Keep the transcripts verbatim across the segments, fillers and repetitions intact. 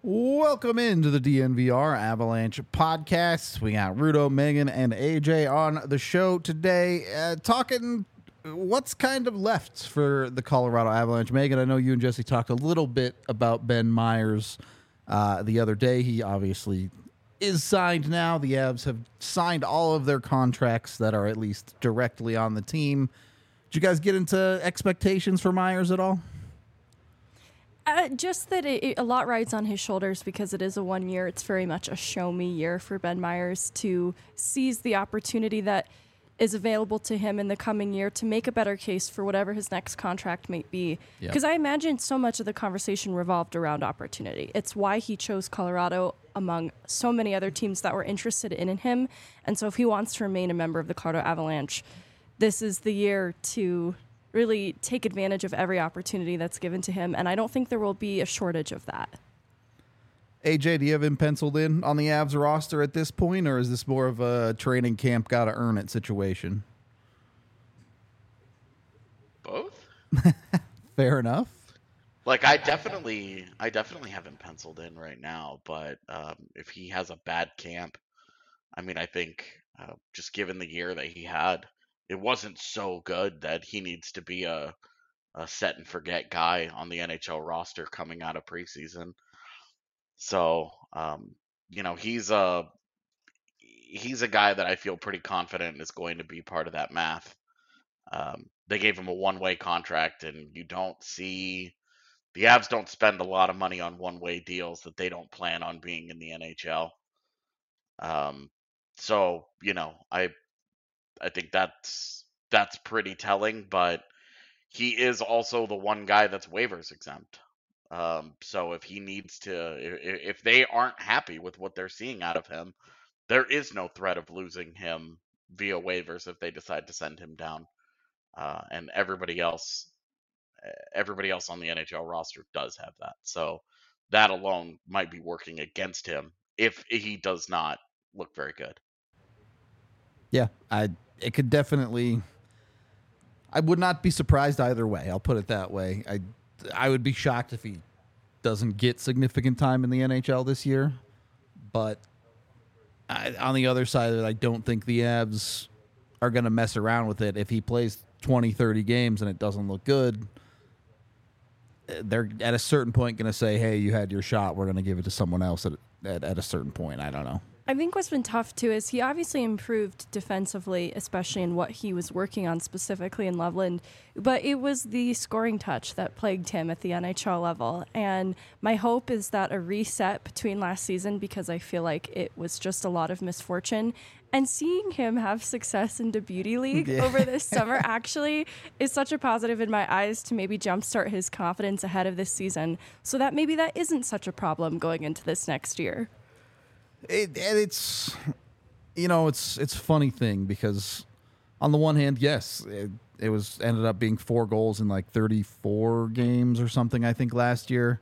Welcome into the D N V R Avalanche podcast. We got Rudo, Megan, and A J on the show today, uh, talking what's kind of left for the Colorado Avalanche. Megan, I know you and Jesse talked a little bit about Ben Meyers uh, the other day. He obviously is signed now. The Avs have signed all of their contracts that are at least directly on the team. Did you guys get into expectations for Meyers at all? Uh, just that it, it, a lot rides on his shoulders because it is a one year. It's very much a show me year for Ben Meyers to seize the opportunity that is available to him in the coming year to make a better case for whatever his next contract might be. Because yep. I imagine so much of the conversation revolved around opportunity. It's why he chose Colorado among so many other teams that were interested in him. And so if he wants to remain a member of the Colorado Avalanche, this is the year to really take advantage of every opportunity that's given to him, and I don't think there will be a shortage of that. A J, do you have him penciled in on the Avs roster at this point, or is this more of a training camp, gotta earn it situation? Both. Fair enough. Like I definitely, I definitely have him penciled in right now, but um, if he has a bad camp, I mean, I think uh, just given the year that he had, it wasn't so good that he needs to be a, a set and forget guy on the N H L roster coming out of preseason. So, um, you know, he's a he's a guy that I feel pretty confident is going to be part of that math. Um, they gave him a one-way contract, and you don't see the Avs don't spend a lot of money on one-way deals that they don't plan on being in the N H L. Um, so, you know, I. I think that's that's pretty telling, but he is also the one guy that's waivers exempt. Um, so if he needs to, if, if they aren't happy with what they're seeing out of him, there is no threat of losing him via waivers if they decide to send him down. Uh, and everybody else, everybody else on the N H L roster does have that. So that alone might be working against him if he does not look very good. Yeah, I. It could definitely. I would not be surprised either way. I'll put it that way. I, I would be shocked if he doesn't get significant time in the N H L this year. But I, on the other side of it, I don't think the Avs are going to mess around with it. If he plays twenty, thirty games and it doesn't look good, they're at a certain point going to say, hey, you had your shot. We're going to give it to someone else at, at, at a certain point. I don't know. I think what's been tough, too, is he obviously improved defensively, especially in what he was working on specifically in Loveland. But it was the scoring touch that plagued him at the N H L level. And my hope is that a reset between last season, because I feel like it was just a lot of misfortune, and seeing him have success in the Beauty League yeah. over this summer actually is such a positive in my eyes to maybe jumpstart his confidence ahead of this season so that maybe that isn't such a problem going into this next year. It, and it's, you know, it's it's a funny thing because on the one hand, yes, it, it was ended up being four goals in like thirty-four games or something, I think, last year.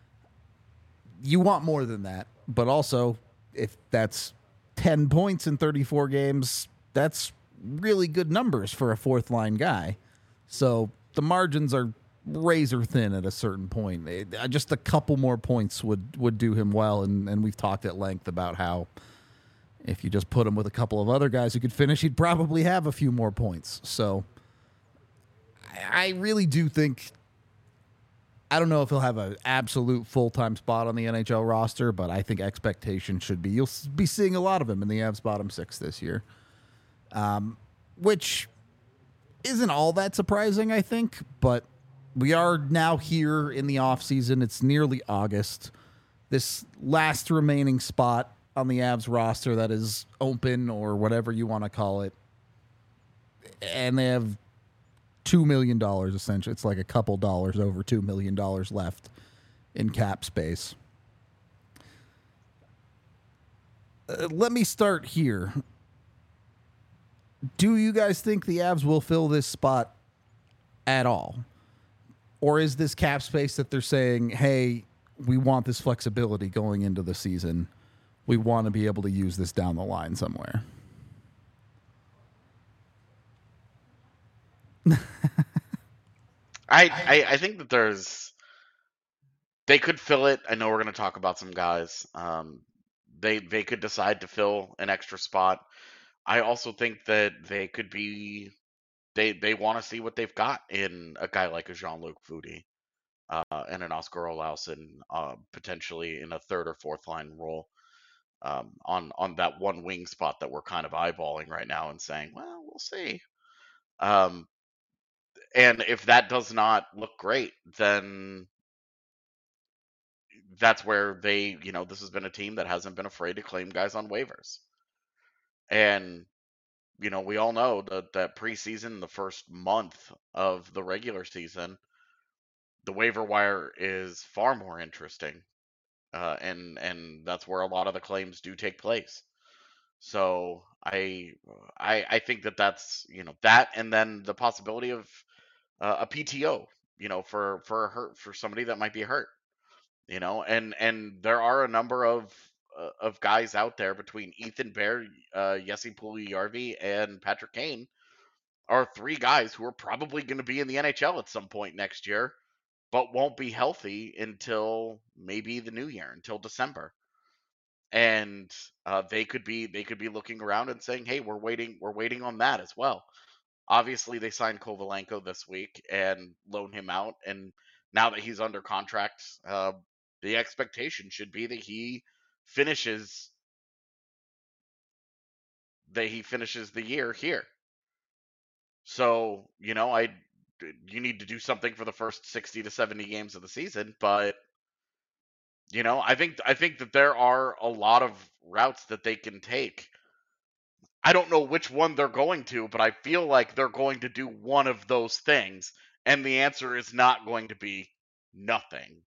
You want more than that. But also, if that's ten points in thirty-four games, that's really good numbers for a fourth-line guy. So the margins are razor thin at a certain point. It, uh, just a couple more points would, would do him well, and, and we've talked at length about how if you just put him with a couple of other guys who could finish, he'd probably have a few more points. So I, I really do think, I don't know if he'll have an absolute full-time spot on the N H L roster, but I think expectation should be, you'll be seeing a lot of him in the Avs bottom six this year, um, which isn't all that surprising, I think, but we are now here in the offseason. It's nearly August. This last remaining spot on the Avs roster that is open, or whatever you want to call it, and they have two million dollars essentially. It's like a couple dollars over two million dollars left in cap space. Uh, let me start here. Do you guys think the Avs will fill this spot at all? Or is this cap space that they're saying, hey, we want this flexibility going into the season. We want to be able to use this down the line somewhere? I, I I think that there's they could fill it. I know we're going to talk about some guys. Um, they they could decide to fill an extra spot. I also think that they could be they they want to see what they've got in a guy like a Jean-Luc Foudy uh, and an Oscar Olausen, uh, potentially in a third or fourth line role um, on on that one wing spot that we're kind of eyeballing right now and saying, well, we'll see. Um, and if that does not look great, then that's where they, you know, this has been a team that hasn't been afraid to claim guys on waivers. And, you know, we all know that that preseason, the first month of the regular season, the waiver wire is far more interesting. Uh, and and that's where a lot of the claims do take place. So I I I think that that's, you know, that, and then the possibility of uh, a P T O, you know, for for a hurt for somebody that might be hurt, you know, and and there are a number of uh, of guys out there between Ethan Bear, uh, Jesse Puljujarvi, and Patrick Kane are three guys who are probably going to be in the N H L at some point next year, but won't be healthy until maybe the new year, until December. And uh, they could be they could be looking around and saying, "Hey, we're waiting we're waiting on that as well." Obviously, they signed Kovalenko this week and loaned him out, and now that he's under contract, uh, the expectation should be that he finishes that he finishes the year here. So, you know, I you need to do something for the first sixty to seventy games of the season, but you know, I think I think that there are a lot of routes that they can take. I don't know which one they're going to, but I feel like they're going to do one of those things, and the answer is not going to be nothing.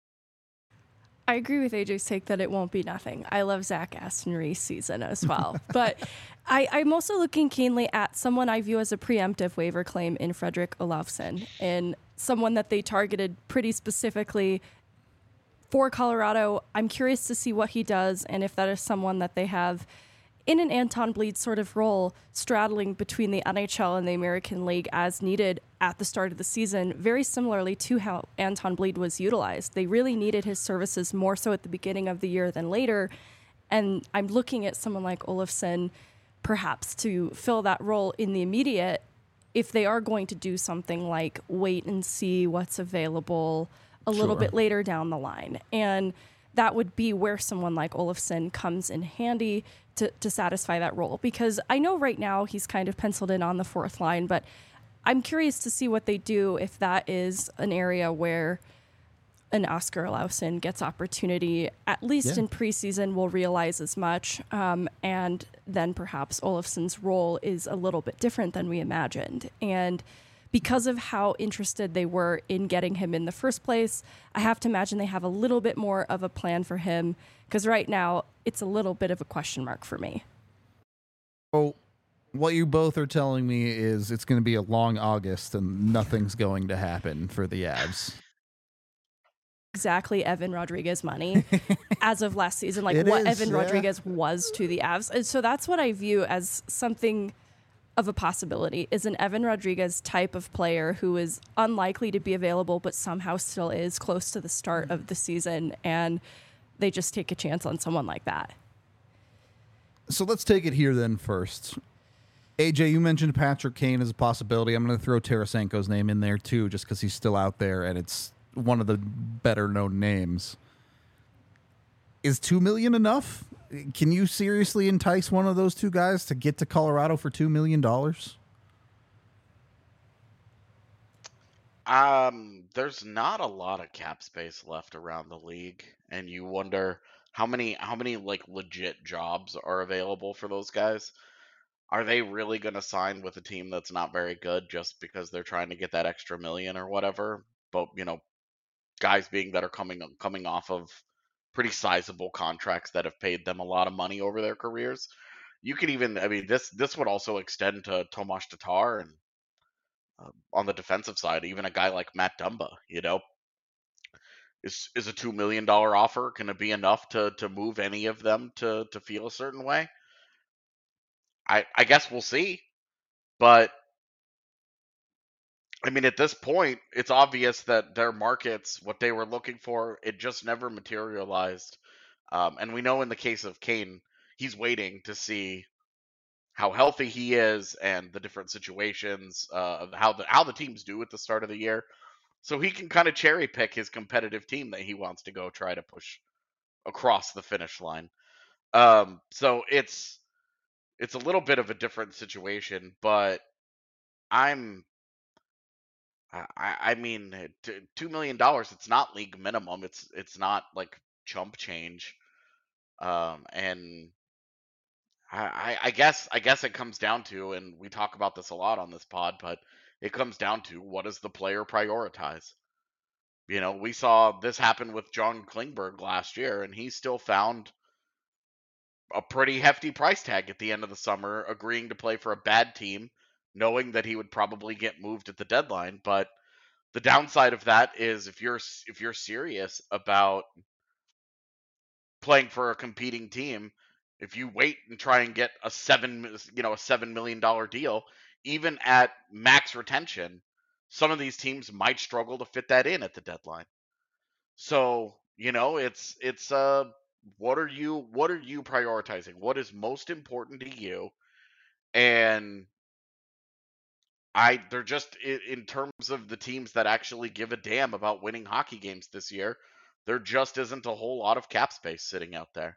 I agree with A J's take that it won't be nothing. I love Zach Aston Reese season as well. But I, I'm also looking keenly at someone I view as a preemptive waiver claim in Fredrik Olofsson, and someone that they targeted pretty specifically for Colorado. I'm curious to see what he does and if that is someone that they have in an Anton Bleed sort of role, straddling between the N H L and the American League as needed at the start of the season, very similarly to how Anton Bleed was utilized. They really needed his services more so at the beginning of the year than later. And I'm looking at someone like Olofsson perhaps to fill that role in the immediate if they are going to do something like wait and see what's available a little Sure. bit later down the line. And that would be where someone like Olofsson comes in handy to, to satisfy that role. Because I know right now he's kind of penciled in on the fourth line, but I'm curious to see what they do if that is an area where an Oscar Olofsson gets opportunity, at least Yeah. in preseason, we'll realize as much. Um, and then perhaps Olofsson's role is a little bit different than we imagined. And because of how interested they were in getting him in the first place, I have to imagine they have a little bit more of a plan for him, because right now it's a little bit of a question mark for me. So, what you both are telling me is it's going to be a long August and nothing's going to happen for the Avs. Exactly Evan Rodriguez money as of last season, like It what is, Evan yeah. Rodriguez was to the Avs. And so that's what I view as something of a possibility, is an Evan Rodriguez type of player who is unlikely to be available, but somehow still is close to the start of the season. And they just take a chance on someone like that. So let's take it here then first. A J, you mentioned Patrick Kane as a possibility. I'm going to throw Tarasenko's name in there too, just because he's still out there and it's one of the better known names. Is two million enough? Can you seriously entice one of those two guys to get to Colorado for two million dollars? Um, there's not a lot of cap space left around the league, and you wonder how many how many like legit jobs are available for those guys. Are they really going to sign with a team that's not very good just because they're trying to get that extra million or whatever? But, you know, guys being that are coming coming off of pretty sizable contracts that have paid them a lot of money over their careers. You could even, I mean, this this would also extend to Tomas Tatar and uh, on the defensive side, even a guy like Matt Dumba. You know, is is a two million dollar offer going to be enough to to move any of them to to feel a certain way? I I guess we'll see, but I mean, at this point, it's obvious that their markets, what they were looking for, it just never materialized. Um, and we know in the case of Kane, he's waiting to see how healthy he is and the different situations, uh, of how the how the teams do at the start of the year, so he can kind of cherry pick his competitive team that he wants to go try to push across the finish line. Um, so it's it's a little bit of a different situation, but I'm I, I I mean, uh, t- two million dollars. It's not league minimum. It's it's not like chump change. Um, and I, I I guess I guess it comes down to, and we talk about this a lot on this pod, but it comes down to what does the player prioritize? You know, we saw this happen with John Klingberg last year, and he still found a pretty hefty price tag at the end of the summer, agreeing to play for a bad team, knowing that he would probably get moved at the deadline. But the downside of that is if you're if you're serious about playing for a competing team, if you wait and try and get a seven you know a seven million dollar deal, even at max retention, some of these teams might struggle to fit that in at the deadline. So, you know, it's it's uh what are you what are you prioritizing? What is most important to you? And I they're just in, in terms of the teams that actually give a damn about winning hockey games this year, there just isn't a whole lot of cap space sitting out there.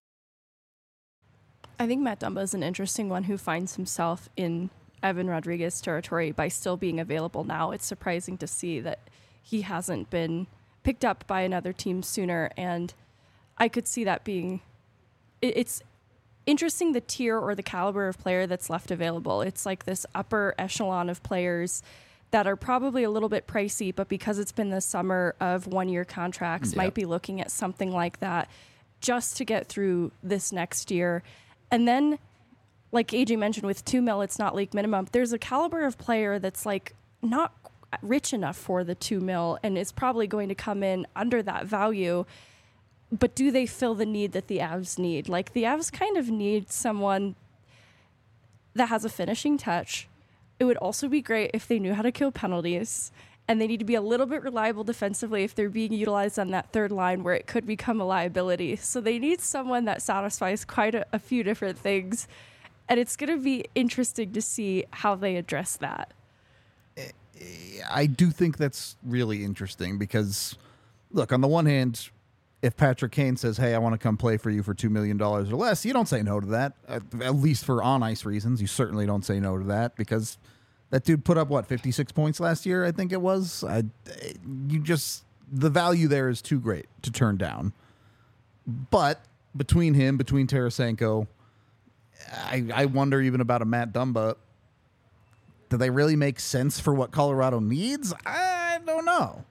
I think Matt Dumba is an interesting one who finds himself in Evan Rodriguez territory by still being available now. It's surprising to see that he hasn't been picked up by another team sooner, and I could see that being it, it's interesting, the tier or the caliber of player that's left available. It's like this upper echelon of players that are probably a little bit pricey, but because it's been the summer of one-year contracts, Yep. might be looking at something like that just to get through this next year. And then, like A J mentioned, with two mil, it's not league minimum. There's a caliber of player that's like not rich enough for the two mil and is probably going to come in under that value. But do they fill the need that the Avs need? Like, the Avs kind of need someone that has a finishing touch. It would also be great if they knew how to kill penalties, and they need to be a little bit reliable defensively if they're being utilized on that third line where it could become a liability. So they need someone that satisfies quite a, a few different things, and it's going to be interesting to see how they address that. I do think that's really interesting because, look, on the one hand, if Patrick Kane says, hey, I want to come play for you for two million dollars or less, you don't say no to that, at, at least for on-ice reasons. You certainly don't say no to that because that dude put up, what, fifty-six points last year, I think it was? I, you just, the value there is too great to turn down. But between him, between Tarasenko, I, I wonder even about a Matt Dumba. Do they really make sense for what Colorado needs? I don't know.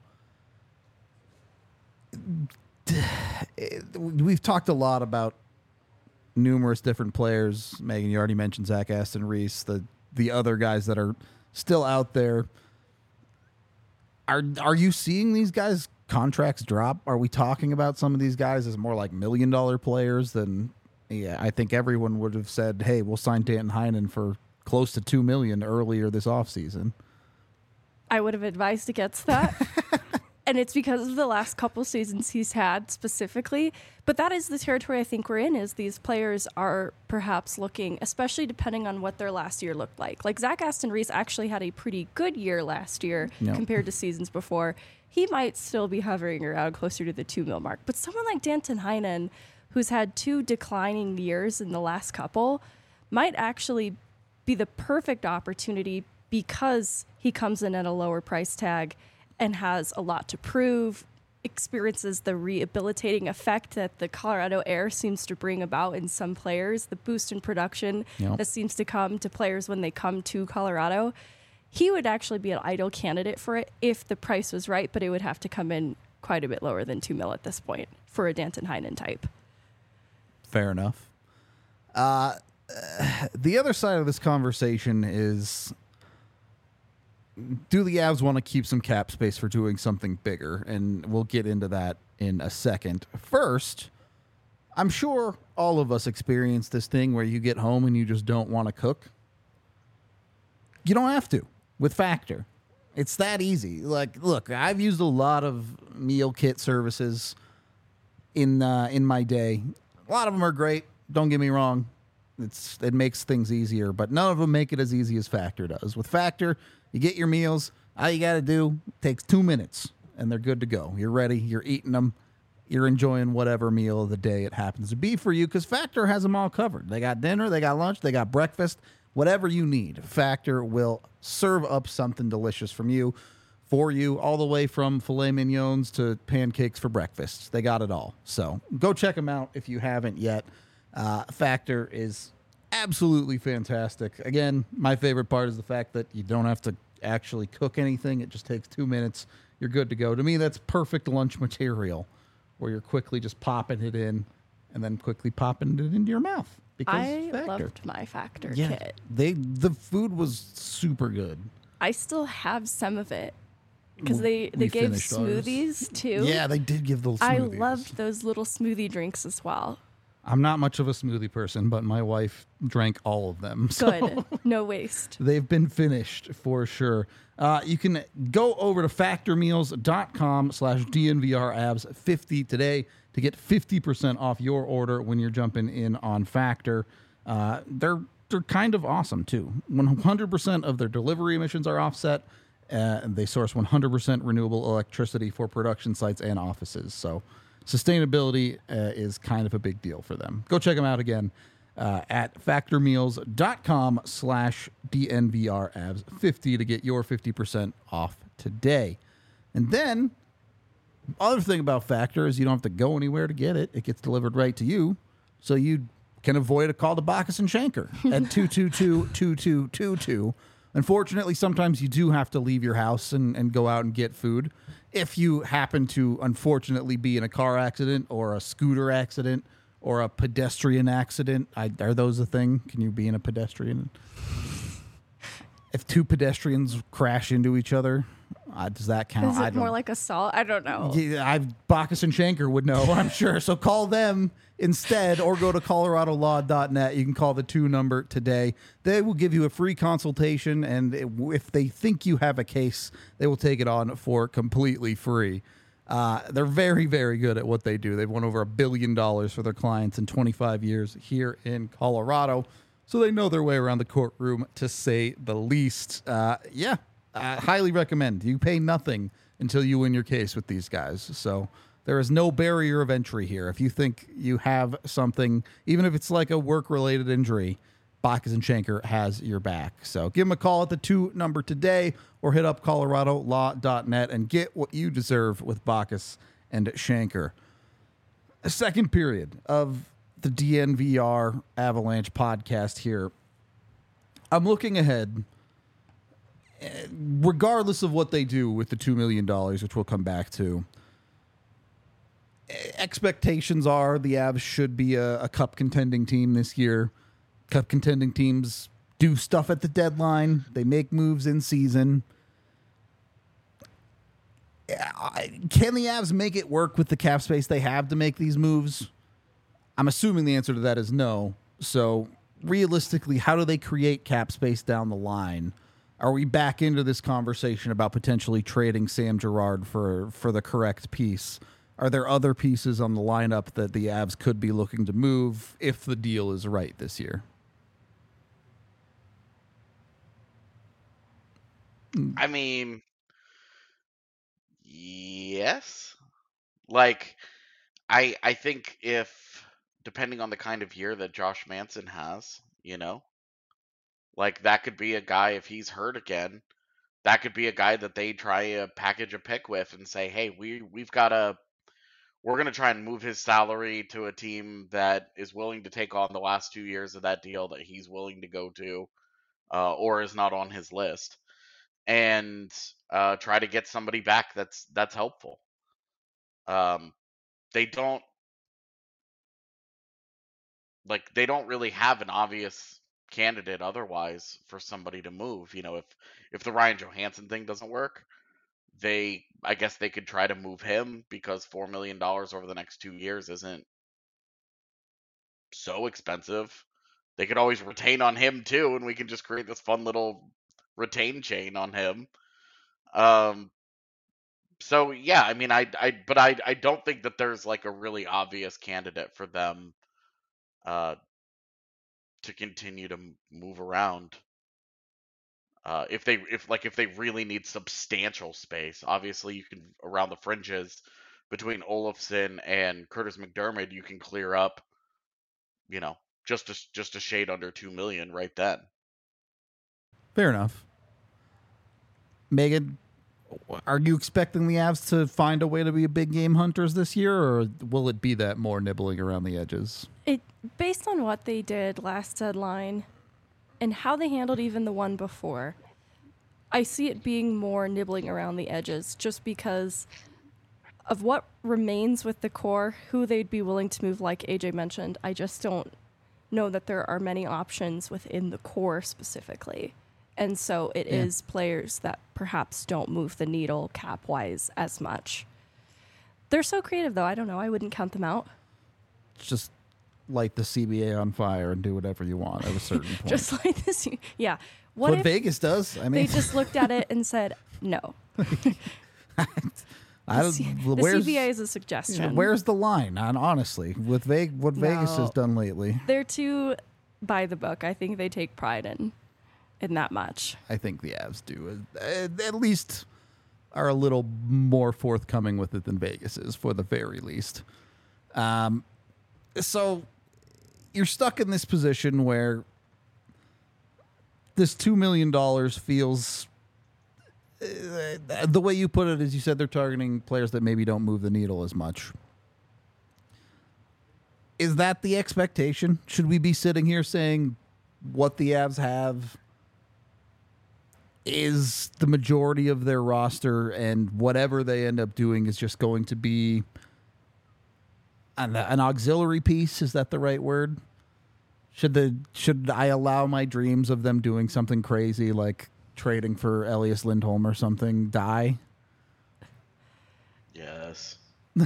We've talked a lot about numerous different players. Megan, you already mentioned Zach Aston Reese, the the other guys that are still out there. Are are you seeing these guys' contracts drop? Are we talking about some of these guys as more like million dollar players than? Yeah, I think everyone would have said, "Hey, we'll sign Danton Heinen for close to two million earlier this offseason." I would have advised against that. And it's because of the last couple seasons he's had specifically. But that is the territory I think we're in, is these players are perhaps looking, especially depending on what their last year looked like. Like Zach Aston Reese actually had a pretty good year last year Yep. compared to seasons before. He might still be hovering around closer to the two mil mark. But someone like Danton Heinen, who's had two declining years in the last couple, might actually be the perfect opportunity because he comes in at a lower price tag and has a lot to prove, experiences the rehabilitating effect that the Colorado air seems to bring about in some players, the boost in production Yep. that seems to come to players when they come to Colorado. He would actually be an ideal candidate for it if the price was right, but it would have to come in quite a bit lower than two mil at this point for a Danton Heinen type. Fair enough. Uh, the other side of this conversation is, do the Avs want to keep some cap space for doing something bigger? And we'll get into that in a second. First, I'm sure all of us experience this thing where you get home and you just don't want to cook. You don't have to with Factor. It's that easy. Like, look, I've used a lot of meal kit services in uh, in my day. A lot of them are great. Don't get me wrong. It's it makes things easier, but none of them make it as easy as Factor does. With Factor, you get your meals. All you got to do takes two minutes, and they're good to go. You're ready. You're eating them. You're enjoying whatever meal of the day it happens to be for you, because Factor has them all covered. They got dinner, they got lunch, they got breakfast, whatever you need. Factor will serve up something delicious from you, for you, all the way from filet mignons to pancakes for breakfast. They got it all. So go check them out if you haven't yet. Uh, Factor is absolutely fantastic. Again, my favorite part is the fact that you don't have to actually cook anything. It just takes two minutes. You're good to go. To me, that's perfect lunch material, where you're quickly just popping it in and then quickly popping it into your mouth. Because I Factor. loved my Factor Yeah, kit. they the food was super good. I still have some of it because We- they, they we gave finished ours. smoothies too. Yeah, they did give those I smoothies. loved those little smoothie drinks as well. I'm not much of a smoothie person, but my wife drank all of them. So Good. No waste. they've been finished for sure. Uh, you can go over to factormeals.com slash DNVRabs50 today to get fifty percent off your order when you're jumping in on Factor. Uh, they're they're kind of awesome too. one hundred percent of their delivery emissions are offset. Uh, and they source one hundred percent renewable electricity for production sites and offices. So sustainability uh, is kind of a big deal for them. Go check them out again uh, at factormeals.com slash DNVRabs50 to get your fifty percent off today. And then, other thing about Factor is you don't have to go anywhere to get it. It gets delivered right to you, so you can avoid a call to Bacchus and Shanker at two two two, two two two two. Unfortunately, sometimes you do have to leave your house and, and go out and get food. If you happen to, unfortunately, be in a car accident or a scooter accident or a pedestrian accident, I, are those a thing? Can you be in a pedestrian? If two pedestrians crash into each other, uh, does that count? Is I it don't more like assault? I don't know. Yeah, I've Bacchus and Shanker would know, I'm sure. So call them instead, or go to colorado law dot net. You can call the two number today. They will give you a free consultation, and it, if they think you have a case, they will take it on for completely free. Uh, they're very, very good at what they do. They've won over a billion dollars for their clients in twenty-five years here in Colorado, so they know their way around the courtroom, to say the least. Uh, yeah, I highly recommend. You pay nothing until you win your case with these guys. So there is no barrier of entry here. If you think you have something, even if it's like a work-related injury, Bacchus and Shanker has your back. So give them a call at the two number today, or hit up colorado law dot net and get what you deserve with Bacchus and Shanker. A second period of the D N V R Avalanche podcast here. I'm looking ahead. Regardless of what they do with the two million dollars, which we'll come back to, expectations are the Avs should be a, a cup contending team this year. Cup contending teams do stuff at the deadline. They make moves in season. Can the Avs make it work with the cap space they have to make these moves? I'm assuming the answer to that is no. So realistically, how do they create cap space down the line? Are we back into this conversation about potentially trading Sam Girard for, for the correct piece? Are there other pieces on the lineup that the Avs could be looking to move if the deal is right this year? I mean, yes. Like, I I think if, depending on the kind of year that Josh Manson has, you know, like that could be a guy, if he's hurt again, that could be a guy that they try to package a pick with and say, hey, we we've got a we're going to try and move his salary to a team that is willing to take on the last two years of that deal that he's willing to go to, uh, or is not on his list, and uh, try to get somebody back that's that's helpful. Um, they don't like they don't really have an obvious candidate otherwise for somebody to move. You know, if if the Ryan Johansson thing doesn't work, they I guess they could try to move him, because four million dollars over the next two years isn't so expensive. They could always retain on him too, and we can just create this fun little retain chain on him. Um, so yeah, I mean, I, I, but I, I don't think that there's like a really obvious candidate for them uh, to continue to m- move around. Uh, if they, if like, if they really need substantial space, obviously you can around the fringes between Olafson and Curtis McDermott, you can clear up, you know, just a, just a shade under two million right then. Fair enough. Megan, are you expecting the Avs to find a way to be a big game hunters this year, or will it be that more nibbling around the edges? It based on what they did last deadline and how they handled even the one before, I see it being more nibbling around the edges just because of what remains with the core, who they'd be willing to move, like A J mentioned. I just don't know that there are many options within the core specifically. And so it Yeah. is players that perhaps don't move the needle cap-wise as much. They're so creative, though. I don't know. I wouldn't count them out. Just light the C B A on fire and do whatever you want at a certain point. Just like this. Yeah. What, what if Vegas does. I they mean, just looked at it and said, no. I The, don't, C- the where's, C B A is a suggestion. where's the line? On honestly, with Vegas, what Vegas No. has done lately, They're too by the book. I think they take pride in in that much. I think the Avs do. Uh, At least are a little more forthcoming with it than Vegas is, for the very least. Um, so you're stuck in this position where this two million dollars feels. Uh, the way you put it is, you said they're targeting players that maybe don't move the needle as much. Is that the expectation? Should we be sitting here saying what the Avs have is the majority of their roster, and whatever they end up doing is just going to be an, an auxiliary piece? Is that the right word? Should the should I allow my dreams of them doing something crazy like trading for Elias Lindholm or something die? Yes.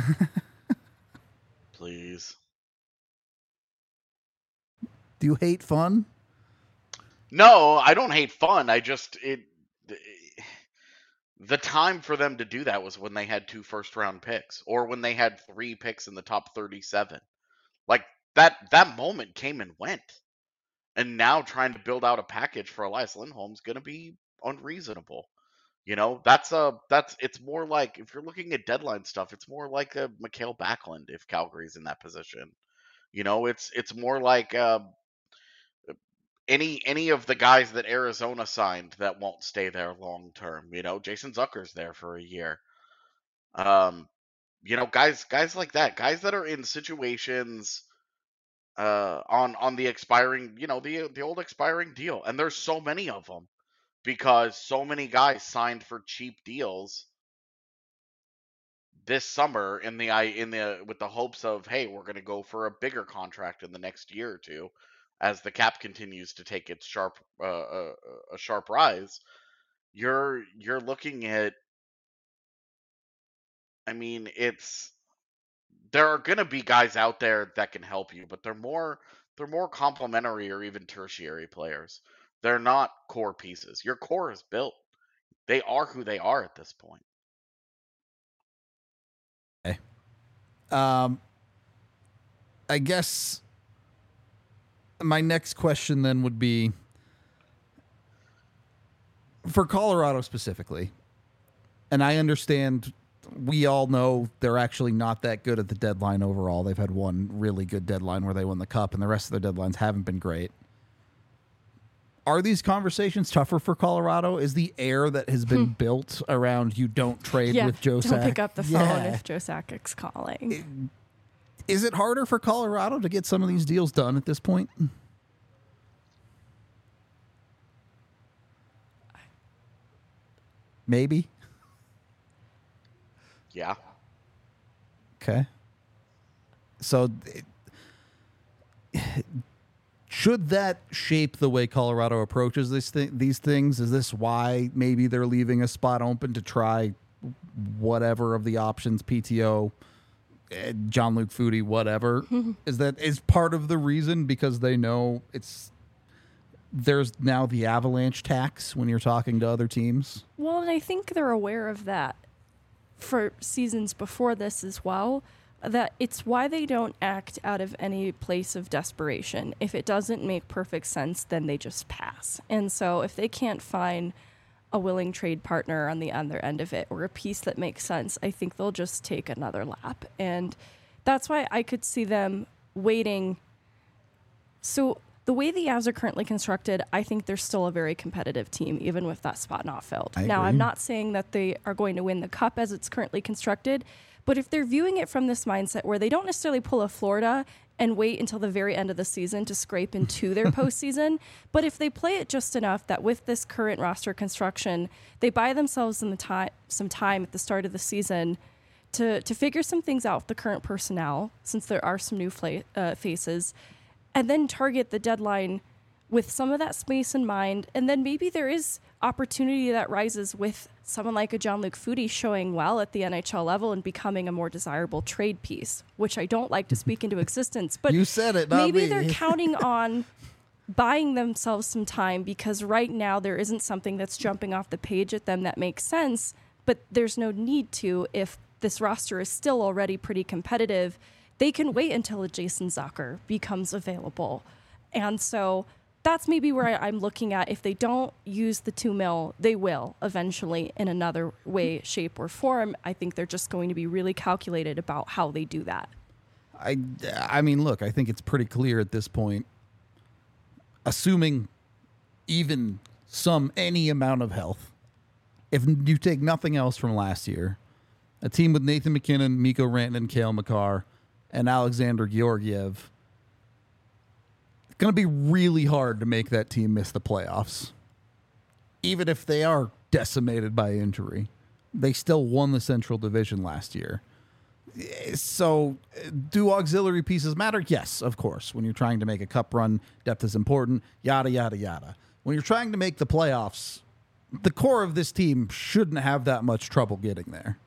Please. Do you hate fun? No, I don't hate fun. I just it the time for them to do that was when they had two first round picks, or when they had three picks in the top thirty-seven. Like that that moment came and went. And now trying to build out a package for Elias Lindholm's going to be unreasonable. You know, that's a that's it's more like, if you're looking at deadline stuff, it's more like a Mikhail Backlund if Calgary's in that position. You know, it's it's more like uh, any any of the guys that Arizona signed that won't stay there long term. You know, Jason Zucker's there for a year. Um, you know, guys guys like that, guys that are in situations uh, on on the expiring, you know, the the old expiring deal, and there's so many of them because so many guys signed for cheap deals this summer in the I in the with the hopes of, hey, we're going to go for a bigger contract in the next year or two, as the cap continues to take its sharp uh, uh, a sharp rise. You're you're looking at, I mean, it's there are going to be guys out there that can help you, but they're more they're more complementary or even tertiary players. They're not core pieces. Your core is built. They are who they are at this point. Okay. Um, I guess my next question then would be, for Colorado specifically, and I understand, we all know they're actually not that good at the deadline overall. They've had one really good deadline where they won the cup, and the rest of their deadlines haven't been great. Are these conversations tougher for Colorado? Is the air that has been built around you don't trade Yeah, with Joe don't Sakic? pick up the phone Yeah. if Joe Sakic's calling. Is it harder for Colorado to get some of these deals done at this point? Maybe. Yeah. Okay. So it, should that shape the way Colorado approaches this th- these things? Is this why maybe they're leaving a spot open to try whatever of the options, P T O, eh, Jean-Luc Foudy, whatever? Is that is part of the reason, because they know it's there's now the Avalanche tax when you're talking to other teams. Well, and I think they're aware of that for seasons before this as well, that it's why they don't act out of any place of desperation. If it doesn't make perfect sense, then they just pass. And so if they can't find a willing trade partner on the other end of it or a piece that makes sense, I think they'll just take another lap. And that's why I could see them waiting. So the way the Avs are currently constructed, I think they're still a very competitive team, even with that spot not filled. I Now, agree. I'm not saying that they are going to win the cup as it's currently constructed, but if they're viewing it from this mindset where they don't necessarily pull a Florida and wait until the very end of the season to scrape into their postseason, but if they play it just enough that with this current roster construction, they buy themselves in the time, some time at the start of the season to, to figure some things out with the current personnel, since there are some new fla- uh, faces, and then target the deadline with some of that space in mind. And then maybe there is opportunity that rises with someone like a Jean-Luc Foudy showing well at the N H L level and becoming a more desirable trade piece, which I don't like to speak into existence. But You said it, not maybe me. they're counting on buying themselves some time, because right now there isn't something that's jumping off the page at them that makes sense, but there's no need to if this roster is still already pretty competitive. They can wait until a Jason Zucker becomes available. And so that's maybe where I, I'm looking at. If they don't use the two mil, they will eventually in another way, shape, or form. I think they're just going to be really calculated about how they do that. I, I mean, look, I think it's pretty clear at this point, assuming even some, any amount of health, if you take nothing else from last year, a team with Nathan MacKinnon, Mikko Rantanen, Cale Makar, and Alexander Georgiev, it's going to be really hard to make that team miss the playoffs. Even if they are decimated by injury, they still won the Central Division last year. So, do auxiliary pieces matter? Yes, of course. When you're trying to make a cup run, depth is important, yada, yada, yada. When you're trying to make the playoffs, the core of this team shouldn't have that much trouble getting there.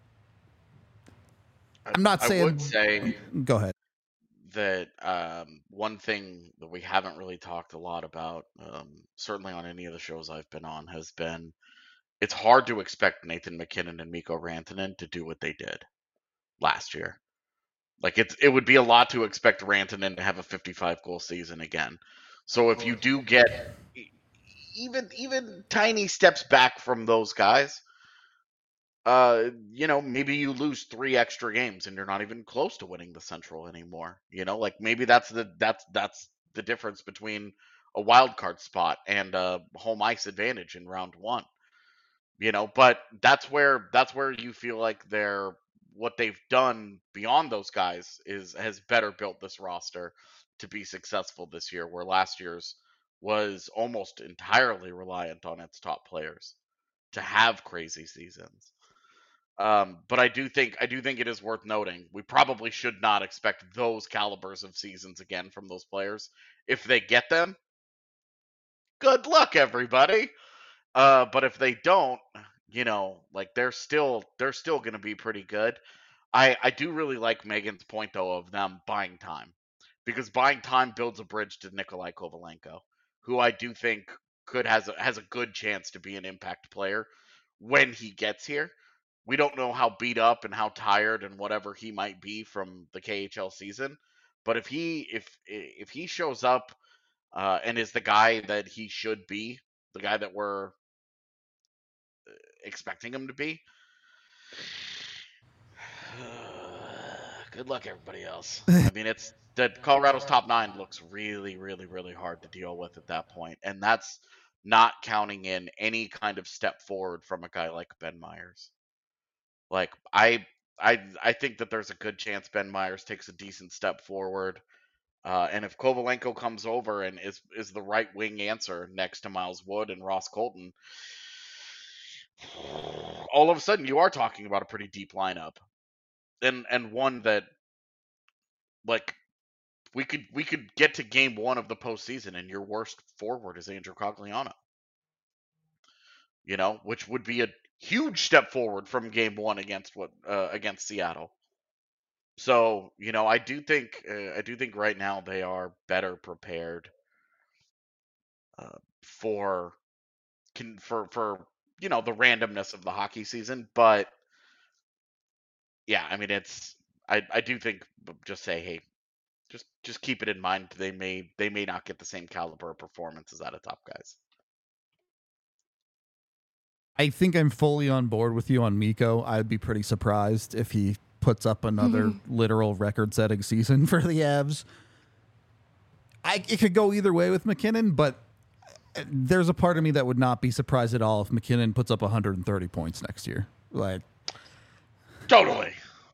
I'm not I saying... would say Go ahead. that um, one thing that we haven't really talked a lot about, um, certainly on any of the shows I've been on, has been it's hard to expect Nathan MacKinnon and Mikko Rantanen to do what they did last year. Like it's it would be a lot to expect Rantanen to have a fifty-five goal season again. So if you do get e- even even tiny steps back from those guys, uh, you know, maybe you lose three extra games and you're not even close to winning the Central anymore. You know, like maybe that's the that's that's the difference between a wild card spot and a home ice advantage in round one. You know, but that's where that's where you feel like they're what they've done beyond those guys is has better built this roster to be successful this year, where last year's was almost entirely reliant on its top players to have crazy seasons. Um, but I do think I do think it is worth noting we probably should not expect those calibers of seasons again from those players. If they get them, good luck, everybody. Uh, but if they don't, you know, like they're still they're still going to be pretty good. I I do really like Megan's point though of them buying time, because buying time builds a bridge to Nikolai Kovalenko, who I do think could has a, has a good chance to be an impact player when he gets here. We don't know how beat up and how tired and whatever he might be from the K H L season, but if he if if he shows up uh, and is the guy that he should be, the guy that we're expecting him to be, good luck everybody else. I mean, it's that Colorado's top nine looks really, really, really hard to deal with at that point, and that's not counting in any kind of step forward from a guy like Ben Myers. Like I, I, I think that there's a good chance Ben Myers takes a decent step forward, uh, and if Kovalenko comes over and is is the right wing answer next to Miles Wood and Ross Colton, all of a sudden you are talking about a pretty deep lineup, and and one that like we could we could get to game one of the postseason and your worst forward is Andrew Cogliano. You know, which would be a huge step forward from game one against what uh, against Seattle. So you know, I do think uh, I do think right now they are better prepared uh, for can for for you know the randomness of the hockey season. But yeah, I mean it's I I do think just say hey, just just keep it in mind they may they may not get the same caliber of performances out of top guys. I think I'm fully on board with you on Mikko. I'd be pretty surprised if he puts up another literal record-setting season for the Avs. I, it could go either way with MacKinnon, but there's a part of me that would not be surprised at all if MacKinnon puts up one hundred thirty points next year. Like, totally.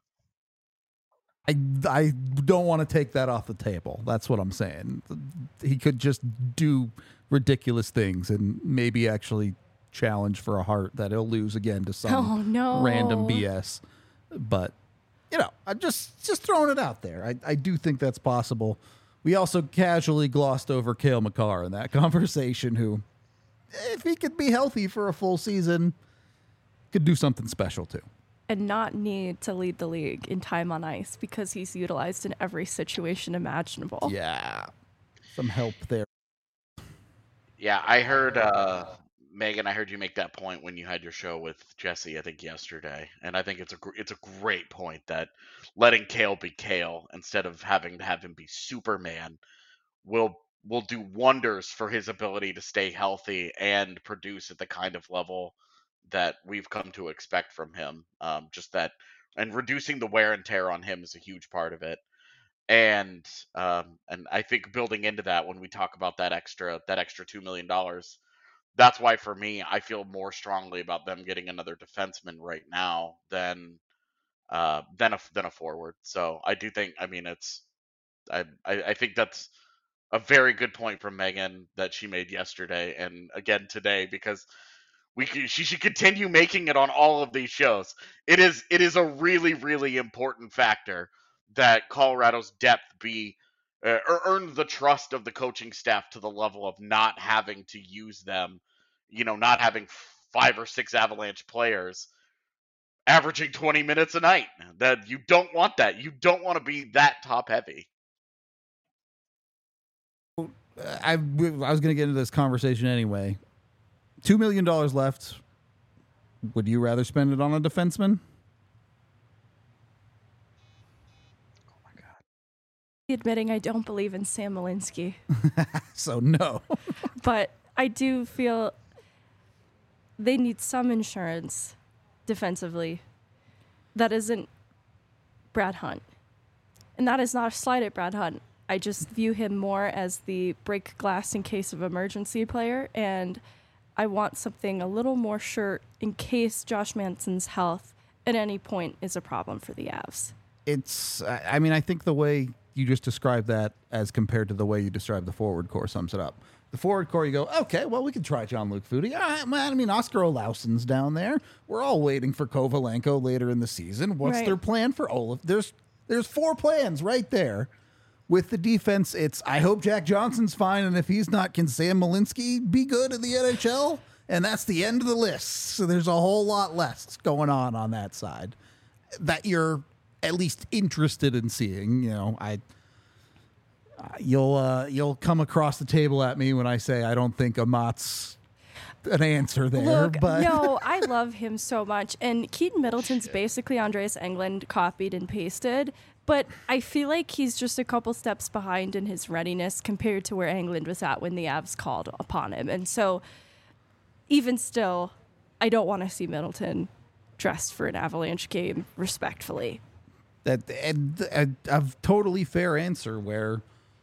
I, I don't want to take that off the table. That's what I'm saying. He could just do ridiculous things and maybe actually challenge for a Hart that he'll lose again to some Oh, no. random B S. But, you know, I'm just just throwing it out there. I, I do think that's possible. We also casually glossed over Cale Makar in that conversation, who, if he could be healthy for a full season, could do something special too. And not need to lead the league in time on ice because he's utilized in every situation imaginable. Yeah. Some help there. Yeah, I heard uh, Megan. I heard you make that point when you had your show with Jesse. I think yesterday, and I think it's a gr- it's a great point that letting Cale be Cale instead of having to have him be Superman will will do wonders for his ability to stay healthy and produce at the kind of level that we've come to expect from him. Um, just that, and reducing the wear and tear on him is a huge part of it. And um, and I think building into that, when we talk about that extra that extra two million dollars, that's why for me I feel more strongly about them getting another defenseman right now than uh, than a than a forward. So I do think, I mean, it's I I, I think that's a very good point from Megan that she made yesterday and again today, because we could, she should continue making it on all of these shows. It is it is a really really important factor that Colorado's depth be uh, or earn the trust of the coaching staff to the level of not having to use them, you know, not having five or six Avalanche players averaging twenty minutes a night. That you don't want that. You don't want to be that top heavy. I, I was going to get into this conversation anyway. Two million dollars left. Would you rather spend it on a defenseman? Oh my god. Admitting I don't believe in Sam Malinsky. So no. But I do feel they need some insurance defensively that isn't Brad Hunt. And that is not a slight at Brad Hunt. I just view him more as the break glass in case of emergency player, and I want something a little more sure in case Josh Manson's health at any point is a problem for the Avs. It's, I mean, I think the way you just described that as compared to the way you described the forward core sums it up. The forward core, you go, okay, well, we could try Jean-Luc Foudy. All right, man, I mean, Oscar Olauson's down there. We're all waiting for Kovalenko later in the season. What's Right. their plan for Olaf? There's there's four plans right there. With the defense, it's, I hope Jack Johnson's fine, and if he's not, can Sam Malinsky be good in the N H L? And that's the end of the list. So there's a whole lot less going on on that side that you're at least interested in seeing. You know, I uh, you'll uh, you'll come across the table at me when I say I don't think Amat's an answer there. Look, but no, I love him so much. And Keaton Middleton's basically Andreas Englund copied and pasted. But I feel like he's just a couple steps behind in his readiness compared to where Englund was at when the Avs called upon him. And so even still, I don't want to see Middleton dressed for an Avalanche game, respectfully. that and, and a totally fair answer where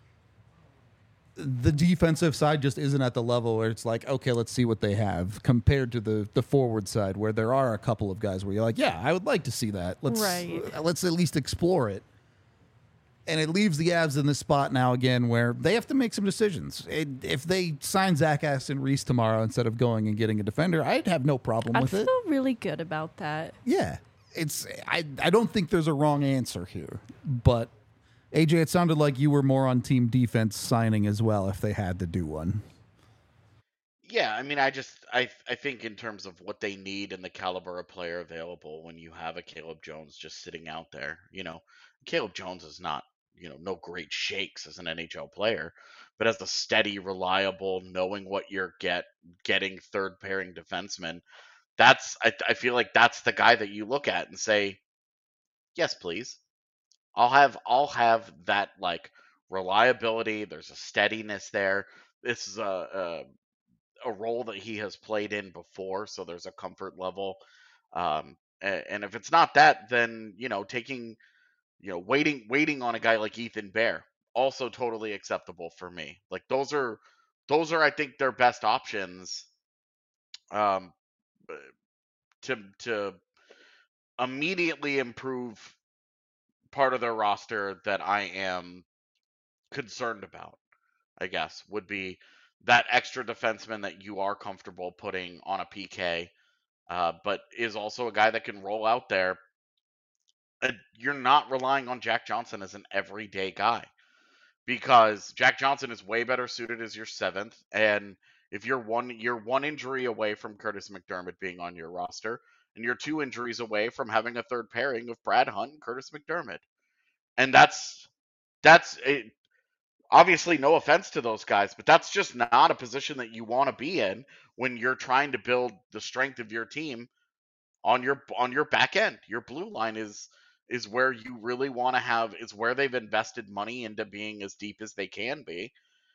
the defensive side just isn't at the level where it's like, okay, let's see what they have compared to the the forward side where there are a couple of guys where you're like, yeah, I would like to see that. Let's Right. uh, let's at least explore it. And it leaves the Avs in this spot now again where they have to make some decisions. It, if they sign Zach Aston Reese tomorrow instead of going and getting a defender, I'd have no problem I with feel it. really good about that. Yeah, it's I I don't think there's a wrong answer here, but A J, it sounded like you were more on team defense signing as well if they had to do one. Yeah, I mean, I just I I think in terms of what they need and the caliber of player available, when you have a Caleb Jones just sitting out there, you know, Caleb Jones is not you know, no great shakes as an N H L player, but as the steady, reliable, knowing what you're get getting third pairing defenseman, that's I, I feel like that's the guy that you look at and say, yes, please. I'll have I'll have that like reliability. There's a steadiness there. This is a, a a role that he has played in before, so there's a comfort level. Um, and, and if it's not that, then you know, taking you know, waiting waiting on a guy like Ethan Bear, also totally acceptable for me. Like those are those are I think their best options um to to immediately improve part of their roster that I am concerned about, I guess, would be that extra defenseman that you are comfortable putting on a P K, uh, but is also a guy that can roll out there. And you're not relying on Jack Johnson as an everyday guy, because Jack Johnson is way better suited as your seventh. And if you're one you're one injury away from Curtis McDermott being on your roster, and you're two injuries away from having a third pairing of Brad Hunt and Curtis McDermott. And that's that's a, obviously no offense to those guys, but that's just not a position that you want to be in when you're trying to build the strength of your team on your on your back end. Your blue line is is where you really want to have is where they've invested money into being as deep as they can be.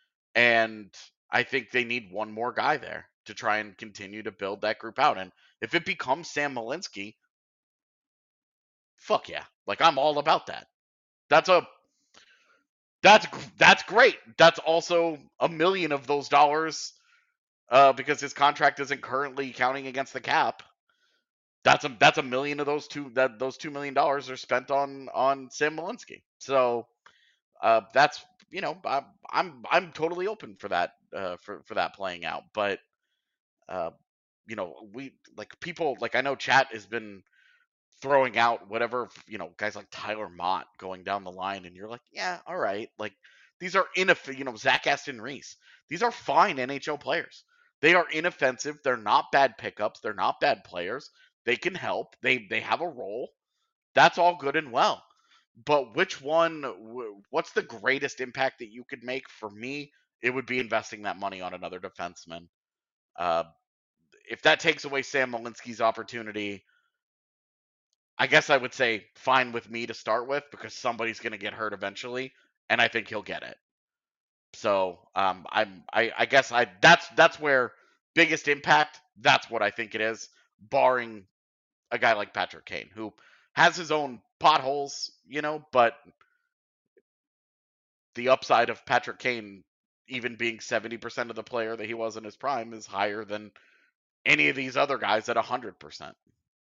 And I think they need one more guy there to try and continue to build that group out. And if it becomes Sam Malinsky, fuck yeah. Like I'm all about that. That's a that's that's great. That's also a million of those dollars uh, because his contract isn't currently counting against the cap. That's a that's a million of those two that those two million dollars are spent on on Sam Malinsky. So uh, that's you know I, I'm I'm totally open for that uh, for for that playing out. But uh, you know we like people like I know chat has been throwing out whatever you know guys like Tyler Mott going down the line, and you're like, yeah, all right, like these are inoff- you know Zach Aston Reese. These are fine N H L players. They are inoffensive. They're not bad pickups. They're not bad players. They can help. They they have a role. That's all good and well. But which one? What's the greatest impact that you could make? For me, it would be investing that money on another defenseman. Uh, if that takes away Sam Malinsky's opportunity, I guess I would say fine with me to start with, because somebody's going to get hurt eventually, and I think he'll get it. So um, I'm I, I guess I that's that's where biggest impact. That's what I think it is, barring a guy like Patrick Kane, who has his own potholes, you know, but the upside of Patrick Kane even being seventy percent of the player that he was in his prime is higher than any of these other guys at one hundred percent.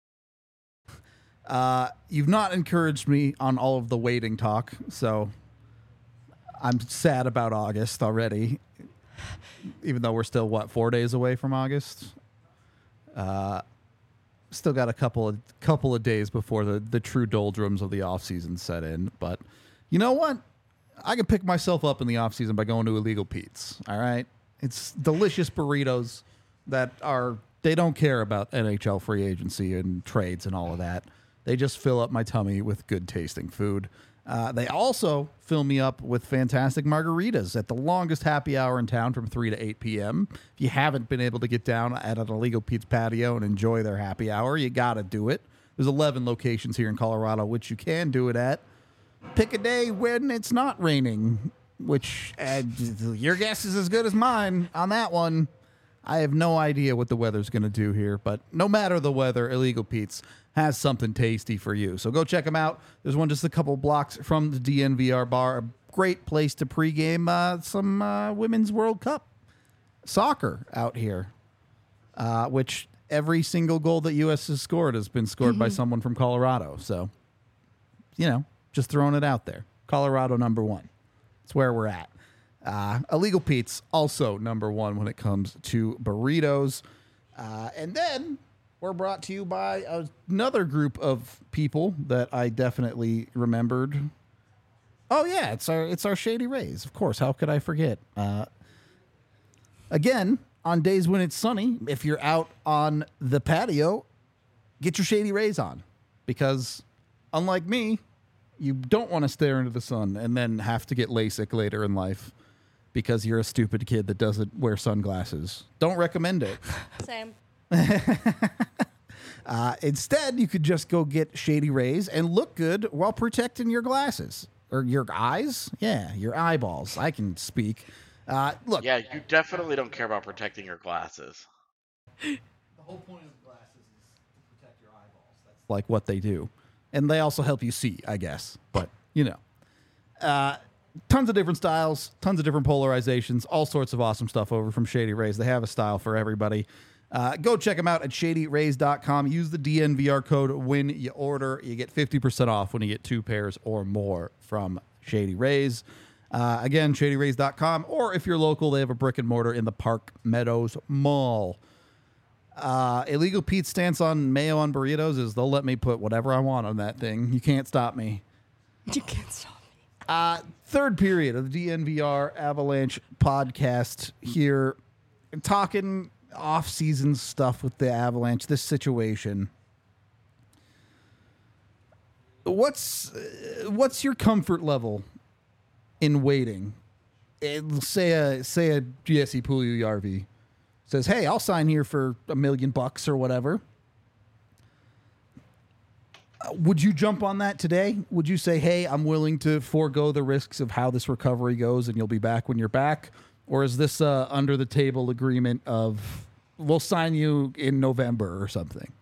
Uh, you've not encouraged me on all of the waiting talk, so I'm sad about August already, even though we're still, what, four days away from August? Uh, still got a couple of couple of days before the, the true doldrums of the offseason set in. But you know what? I can pick myself up in the offseason by going to Illegal Pete's, all right? It's delicious burritos that are, they don't care about N H L free agency and trades and all of that. They just fill up my tummy with good tasting food. Uh, they also fill me up with fantastic margaritas at the longest happy hour in town from three to eight p.m. If you haven't been able to get down at an Illegal Pete's patio and enjoy their happy hour, you got to do it. There's eleven locations here in Colorado, which you can do it at. Pick a day when it's not raining, which uh, your guess is as good as mine on that one. I have no idea what the weather's going to do here, but no matter the weather, Illegal Pete's has something tasty for you. So go check them out. There's one just a couple blocks from the D N V R bar. A great place to pregame uh, some uh, Women's World Cup soccer out here, uh, which every single goal that U S has scored has been scored by someone from Colorado. So, you know, just throwing it out there. Colorado number one. That's where we're at. Uh, Illegal Pete's also number one when it comes to burritos. Uh, and then we're brought to you by another group of people that I definitely remembered. Oh yeah, it's our it's our Shady Rays. Of course, how could I forget? Uh, again, on days when it's sunny, if you're out on the patio, get your Shady Rays on, because unlike me, You don't want to stare into the sun and then have to get LASIK later in life because you're a stupid kid that doesn't wear sunglasses. Don't recommend it. Same. Uh, instead, you could just go get Shady Rays and look good while protecting your glasses. Or your eyes? Yeah, your eyeballs. I can speak. Uh, look. Yeah, you definitely don't care about protecting your glasses. The whole point of glasses is to protect your eyeballs. That's like what they do. And they also help you see, I guess. But, you know. Uh, tons of different styles, tons of different polarizations, all sorts of awesome stuff over from Shady Rays. They have a style for everybody. Uh, go check them out at shady rays dot com. Use the D N V R code when you order. You get fifty percent off when you get two pairs or more from Shady Rays. Uh, again, shady rays dot com. Or if you're local, they have a brick and mortar in the Park Meadows Mall. Uh, Illegal Pete's stance on mayo on burritos is they'll let me put whatever I want on that thing. You can't stop me. You can't stop me. Uh, third period of the D N V R Avalanche podcast here. Talking off-season stuff with the Avalanche, this situation. What's uh, what's your comfort level in waiting? It, say a say a Jesse Puljujarvi says, "Hey, I'll sign here for a million bucks or whatever." Uh, would you jump on that today? Would you say, "Hey, I'm willing to forego the risks of how this recovery goes, and you'll be back when you're back"? Or is this a under the table agreement of we'll sign you in November or something?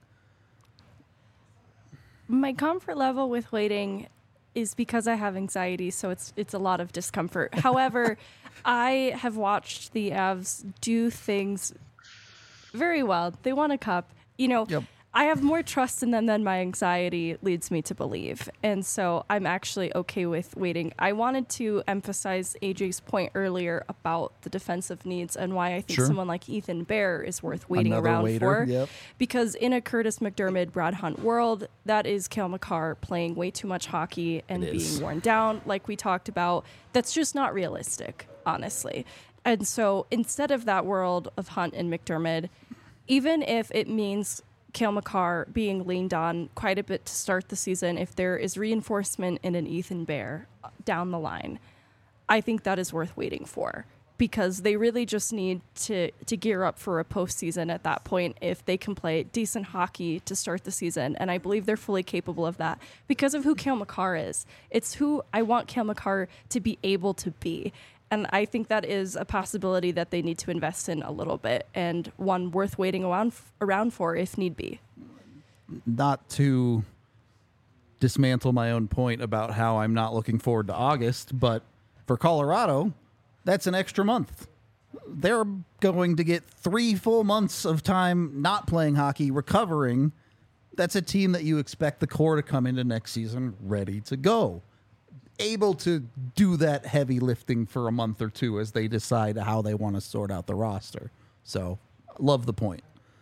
My comfort level with waiting is because I have anxiety, so it's it's a lot of discomfort. However, I have watched the Avs do things very well. They won a cup. You know, Yep. I have more trust in them than my anxiety leads me to believe. And so I'm actually okay with waiting. I wanted to emphasize A J's point earlier about the defensive needs and why I think Sure. someone like Ethan Bear is worth waiting Another around waiter, for. yep. Because in a Curtis McDermott, Brad Hunt world, that is Cale Makar playing way too much hockey and It is. being worn down, like we talked about. That's just not realistic, honestly. And so instead of that world of Hunt and McDermott, even if it means Cale Makar being leaned on quite a bit to start the season, if there is reinforcement in an Ethan Bear down the line, I think that is worth waiting for, because they really just need to to gear up for a postseason at that point if they can play decent hockey to start the season. And I believe they're fully capable of that because of who Cale Makar is. It's who I want Cale Makar to be able to be. And I think that is a possibility that they need to invest in a little bit, and one worth waiting around around for if need be. Not to dismantle my own point about how I'm not looking forward to August, but for Colorado, that's an extra month. They're going to get three full months of time not playing hockey, recovering. That's a team that you expect the core to come into next season ready to go, able to do that heavy lifting for a month or two as they decide how they want to sort out the roster. So, love the point.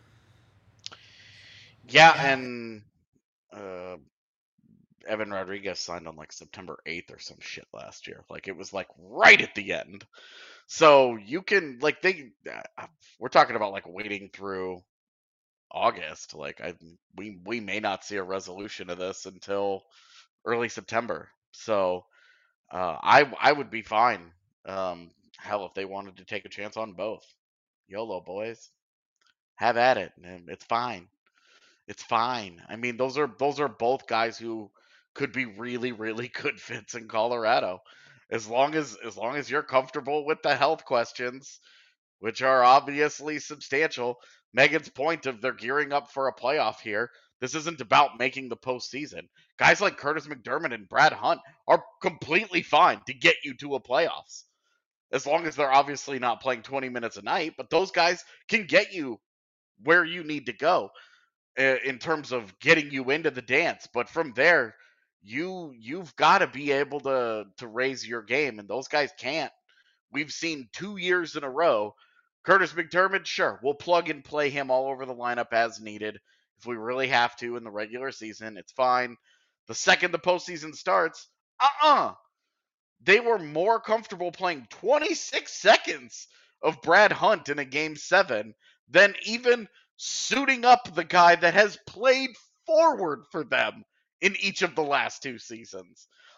Yeah, and uh, Evan Rodriguez signed on like September eighth or some shit last year. Like it was like right at the end. So you can like they uh, we're talking about like waiting through August. Like I we we may not see a resolution of this until early September. So uh, I I would be fine. Um, hell, if they wanted to take a chance on both, YOLO boys, have at it. Man. It's fine. It's fine. I mean, those are those are both guys who could be really really good fits in Colorado. As long as as long as you're comfortable with the health questions, which are obviously substantial. Megan's point of they're gearing up for a playoff here. This isn't about making the postseason. Guys like Curtis McDermott and Brad Hunt are completely fine to get you to a playoffs. As long as they're obviously not playing twenty minutes a night, but those guys can get you where you need to go uh, in terms of getting you into the dance. But from there, you you've got to be able to to raise your game, and those guys can't. We've seen two years in a row. Curtis McDermott, sure, we'll plug and play him all over the lineup as needed. If we really have to in the regular season, it's fine. The second the postseason starts, uh-uh. They were more comfortable playing twenty-six seconds of Brad Hunt in a game seven than even suiting up the guy that has played forward for them in each of the last two seasons.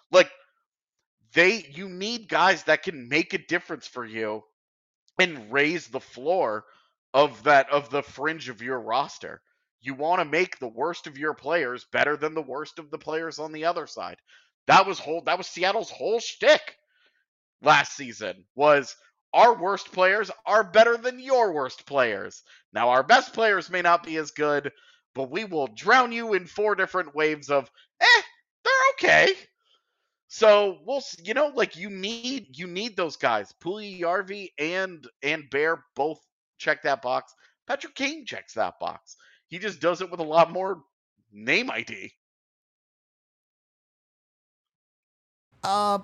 Like, they, you need guys that can make a difference for you and raise the floor of that of the fringe of your roster. You want to make the worst of your players better than the worst of the players on the other side. That was whole that was Seattle's whole shtick last season, was our worst players are better than your worst players. Now our best players may not be as good, but we will drown you in four different waves of eh, they're okay. So we'll, you know, like you need you need those guys. Puljujärvi and and Bear both check that box. Patrick Kane checks that box. He just does it with a lot more name I D. Uh,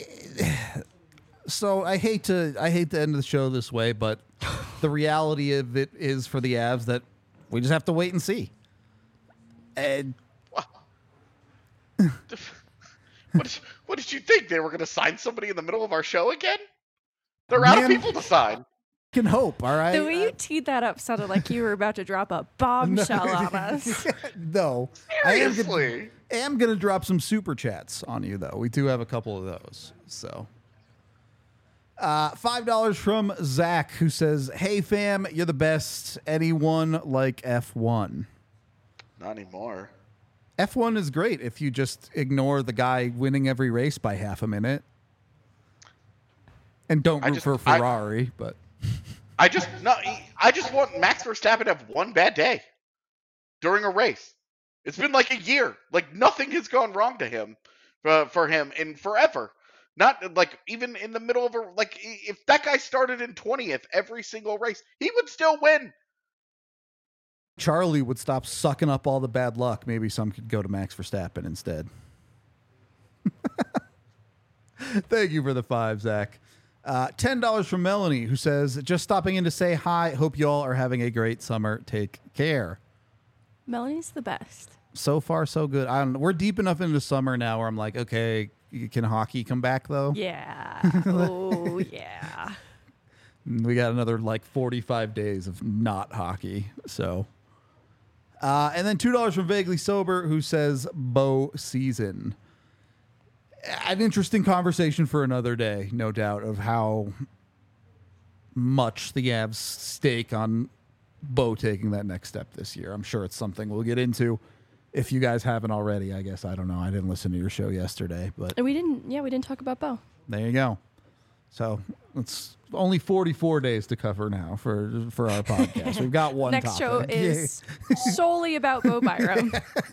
so I hate to I hate to end the show this way, but the reality of it is for the Avs that we just have to wait and see. And what did, what did you think? They were going to sign somebody in the middle of our show again? They're out Man, of people to sign. Can hope, all right? The way you teed that up sounded like you were about to drop a bombshell on us. No. Seriously. I am going to drop some super chats on you, though. We do have a couple of those. So, uh, five dollars from Zach, who says, "Hey, fam, you're the best. Anyone like F one?" Not anymore. F one is great if you just ignore the guy winning every race by half a minute. And don't I root just- for I- Ferrari, but... I just no. I just want Max Verstappen to have one bad day during a race. It's been like a year. Like nothing has gone wrong to him, uh, for him in forever. Not like even in the middle of a like if that guy started in twentieth every single race, he would still win. Charlie would stop sucking up all the bad luck. Maybe some could go to Max Verstappen instead. Thank you for the five, Zach. Uh, ten dollars from Melanie, who says, "Just stopping in to say hi. Hope you all are having a great summer. Take care." Melanie's the best. So far, so good. I don't know. We're deep enough into summer now where I'm like, okay, can hockey come back, though? Yeah. Oh, yeah. We got another like forty-five days of not hockey. So, uh, and then two dollars from Vaguely Sober, who says, "Bow season." An interesting conversation for another day, no doubt, of how much the Avs stake on Bo taking that next step this year. I'm sure it's something we'll get into. If you guys haven't already, I guess. I don't know. I didn't listen to your show yesterday, but And we didn't, yeah, we didn't talk about Bo. there you go. So it's only forty-four days to cover now for for our podcast. We've got one Next show topic. is solely about Bo Byram.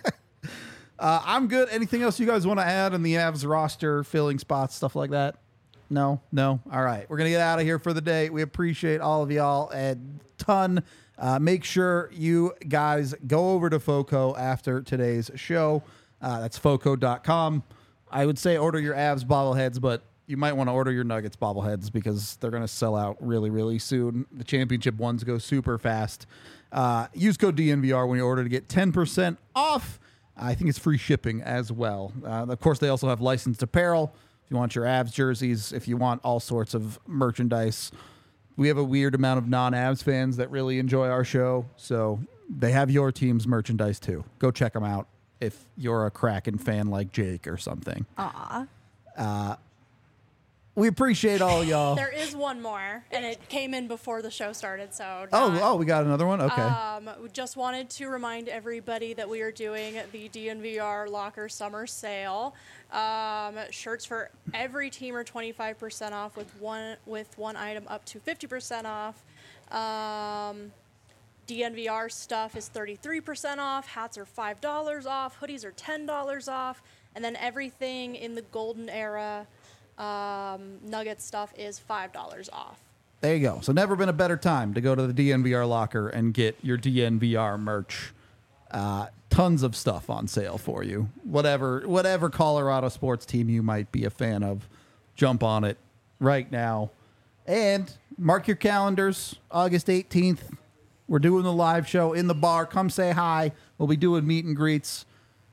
Uh, I'm good. Anything else you guys want to add on the Avs roster, filling spots, stuff like that? No? No? All right. We're going to get out of here for the day. We appreciate all of y'all a ton. Uh, make sure you guys go over to FOCO after today's show. Uh, that's foco dot com. I would say order your Avs bobbleheads, but you might want to order your Nuggets bobbleheads because they're going to sell out really, really soon. The championship ones go super fast. Uh, use code D N V R when you order to get ten percent off. I think it's free shipping as well. Uh, of course, they also have licensed apparel. If you want your Avs jerseys, if you want all sorts of merchandise. We have a weird amount of non-Avs fans that really enjoy our show, so they have your team's merchandise too. Go check them out if you're a Kraken fan like Jake or something. Aw. Uh, we appreciate all y'all. There is one more, and it came in before the show started, so. Oh, not- oh, we got another one? Okay. Um, we just wanted to remind everybody that we are doing the D N V R Locker Summer Sale. Um, shirts for every team are twenty-five percent off, with one with one item up to fifty percent off. Um, D N V R stuff is thirty-three percent off. Hats are five dollars off. Hoodies are ten dollars off. And then everything in the golden era um, Nugget stuff is five dollars off. There you go. So never been a better time to go to the D N V R locker and get your D N V R merch. Uh, tons of stuff on sale for you. Whatever, whatever Colorado sports team you might be a fan of, jump on it right now. And mark your calendars, August eighteenth. We're doing the live show in the bar. Come say hi. We'll be doing meet and greets.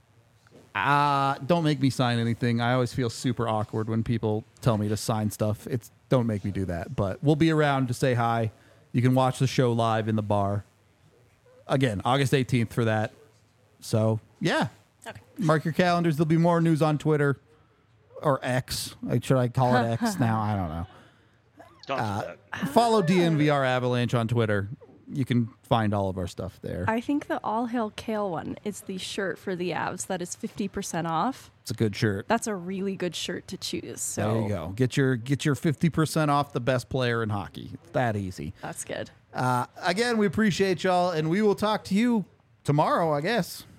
Uh, don't make me sign anything. I always feel super awkward when people tell me to sign stuff. It's don't make me do that. But we'll be around to say hi. You can watch the show live in the bar. Again, August eighteenth for that. So, yeah. Okay. Mark your calendars. There'll be more news on Twitter. or X. Like, should I call it X now? I don't know. Don't Uh, do that. Follow D N V R Avalanche on Twitter. You can find all of our stuff there. I think the All Hail Kale one is the shirt for the Avs that is fifty percent off. It's a good shirt. That's a really good shirt to choose. So There you go. Get your get your fifty percent off the best player in hockey. It's that easy. That's good. Uh, again, we appreciate y'all, and we will talk to you tomorrow, I guess.